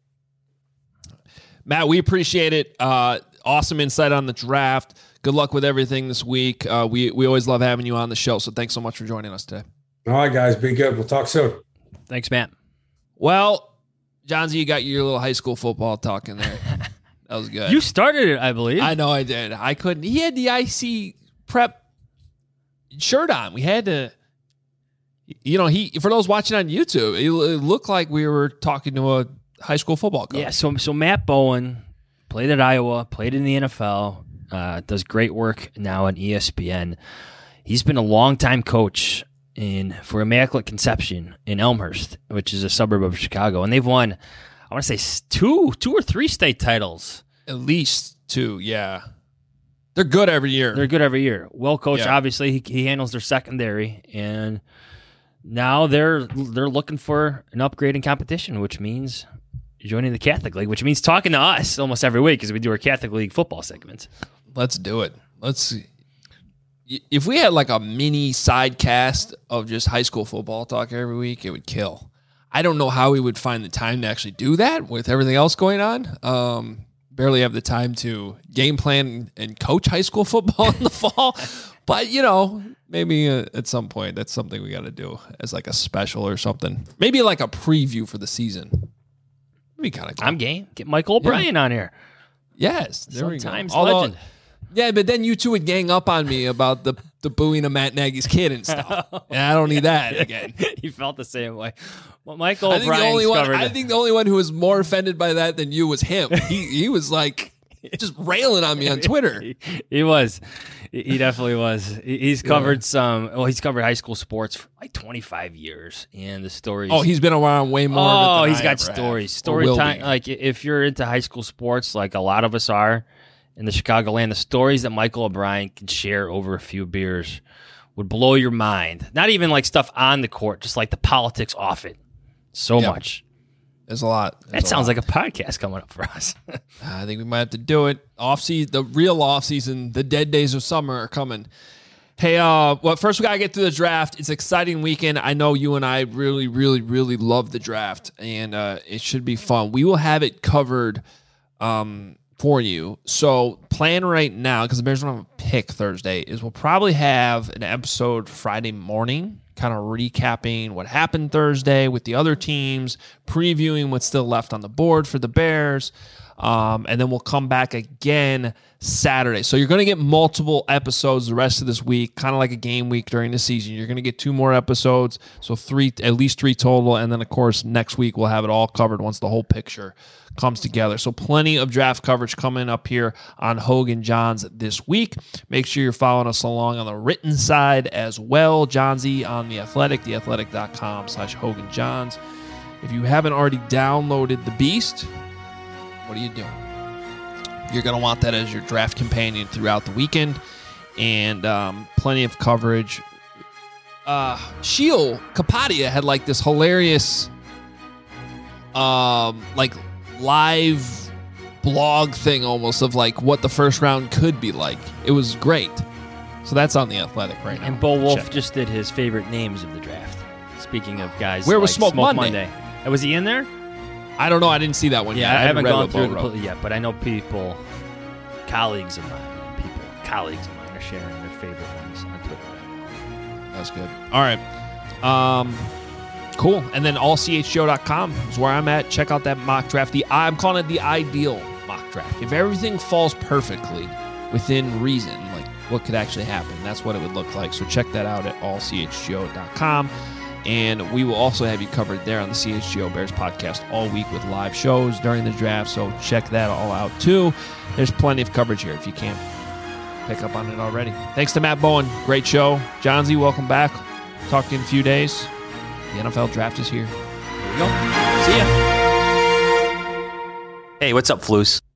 Matt, we appreciate it. Uh, awesome insight on the draft. Good luck with everything this week. Uh, we we always love having you on the show. So thanks so much for joining us today. All right, guys, be good. We'll talk soon. Thanks, Matt. Well, Johnsy, you got your little high school football talk in there. That was good. You started it, I believe. I know I did. I couldn't. He had the I C prep shirt on. We had to. You know, he for those watching on YouTube, it, it looked like we were talking to a high school football coach. Yeah, so so Matt Bowen played at Iowa, played in the N F L, uh, does great work now on E S P N. He's been a longtime coach in for Immaculate Conception in Elmhurst, which is a suburb of Chicago, and they've won, I want to say s- two, two or three state titles. At least two. Yeah, they're good every year. They're good every year. Well coached, Yeah. obviously. He, he handles their secondary, and now they're they're looking for an upgrade in competition, which means joining the Catholic League, which means talking to us almost every week because we do our Catholic League football segments. Let's do it. Let's see. If we had like a mini side cast of just high school football talk every week, it would kill. I don't know how we would find the time to actually do that with everything else going on. Um, barely have the time to game plan and coach high school football in the fall. But, you know, maybe uh, at some point that's something we got to do as like a special or something. Maybe like a preview for the season. That'd be kind of cool. I'm game. Get Michael O'Brien on here. Yes. There we go. Sometimes Although- legend. Yeah, but then you two would gang up on me about the, the booing of Matt Nagy's kid and stuff. And I don't need that again. He felt the same way. Well, Michael I think the O'Brien's only one covered I it. think the only one who was more offended by that than you was him. He he was like just railing on me on Twitter. He, he was. He he definitely was. He- He's covered some. Well, he's covered high school sports for like twenty-five years, and the stories. Oh, he's been around way more. Oh, than he's I got ever stories. have, or Story will time. be. Like if you're into high school sports, like a lot of us are in the Chicagoland, the stories that Michael O'Brien can share over a few beers would blow your mind. Not even like stuff on the court, just like the politics off it. So Yeah. much. There's a lot. That sounds like a podcast coming up for us. I think we might have to do it. Off season, the real off season, the dead days of summer are coming. Hey, uh, well, first we gotta get to the draft. It's an exciting weekend. I know you and I really, really, really love the draft, and uh, it should be fun. We will have it covered um, for you. So plan right now, because the Bears don't have a pick Thursday, is we'll probably have an episode Friday morning, kind of recapping what happened Thursday with the other teams, previewing what's still left on the board for the Bears. Um, and then we'll come back again Saturday. So you're going to get multiple episodes the rest of this week, kind of like a game week during the season. You're going to get two more episodes, so three, at least three total. And then, of course, next week we'll have it all covered once the whole picture comes together. So plenty of draft coverage coming up here on Hogan Johns this week. Make sure you're following us along on the written side as well. Johnsy on The Athletic, theathletic.com slash Hogan Johns. If you haven't already downloaded The Beast, what are you doing? You're going to want that as your draft companion throughout the weekend, and um, plenty of coverage. Uh, Sheil Kapadia had like this hilarious um, like live blog thing almost of like what the first round could be like. It was great. So that's on The Athletic right now. And Bo Wolf Check. just did his favorite names of the draft. Speaking of guys, Where like was Smoke Monday? Uh, Was he in there? I don't know. I didn't see that one Yeah, yet. I haven't read gone what Bo through the wrote. pl- yet, but I know people, colleagues of mine, people, colleagues of mine are sharing their favorite ones on Twitter right now. That's good. All right. Um, cool. And then all c h g o dot com is where I'm at. Check out that mock draft. The I'm calling it the ideal mock draft. If everything falls perfectly within reason, like what could actually happen, that's what it would look like. So check that out at all c h g o dot com. and we will also have you covered there on the C H G O Bears podcast all week with live shows during the draft, so check that all out too. There's plenty of coverage here if you can't pick up on it already. Thanks to Matt Bowen. Great show. John Z, welcome back. Talk to you in a few days. The N F L draft is here. Here we go. See ya. Hey, what's up, Floos?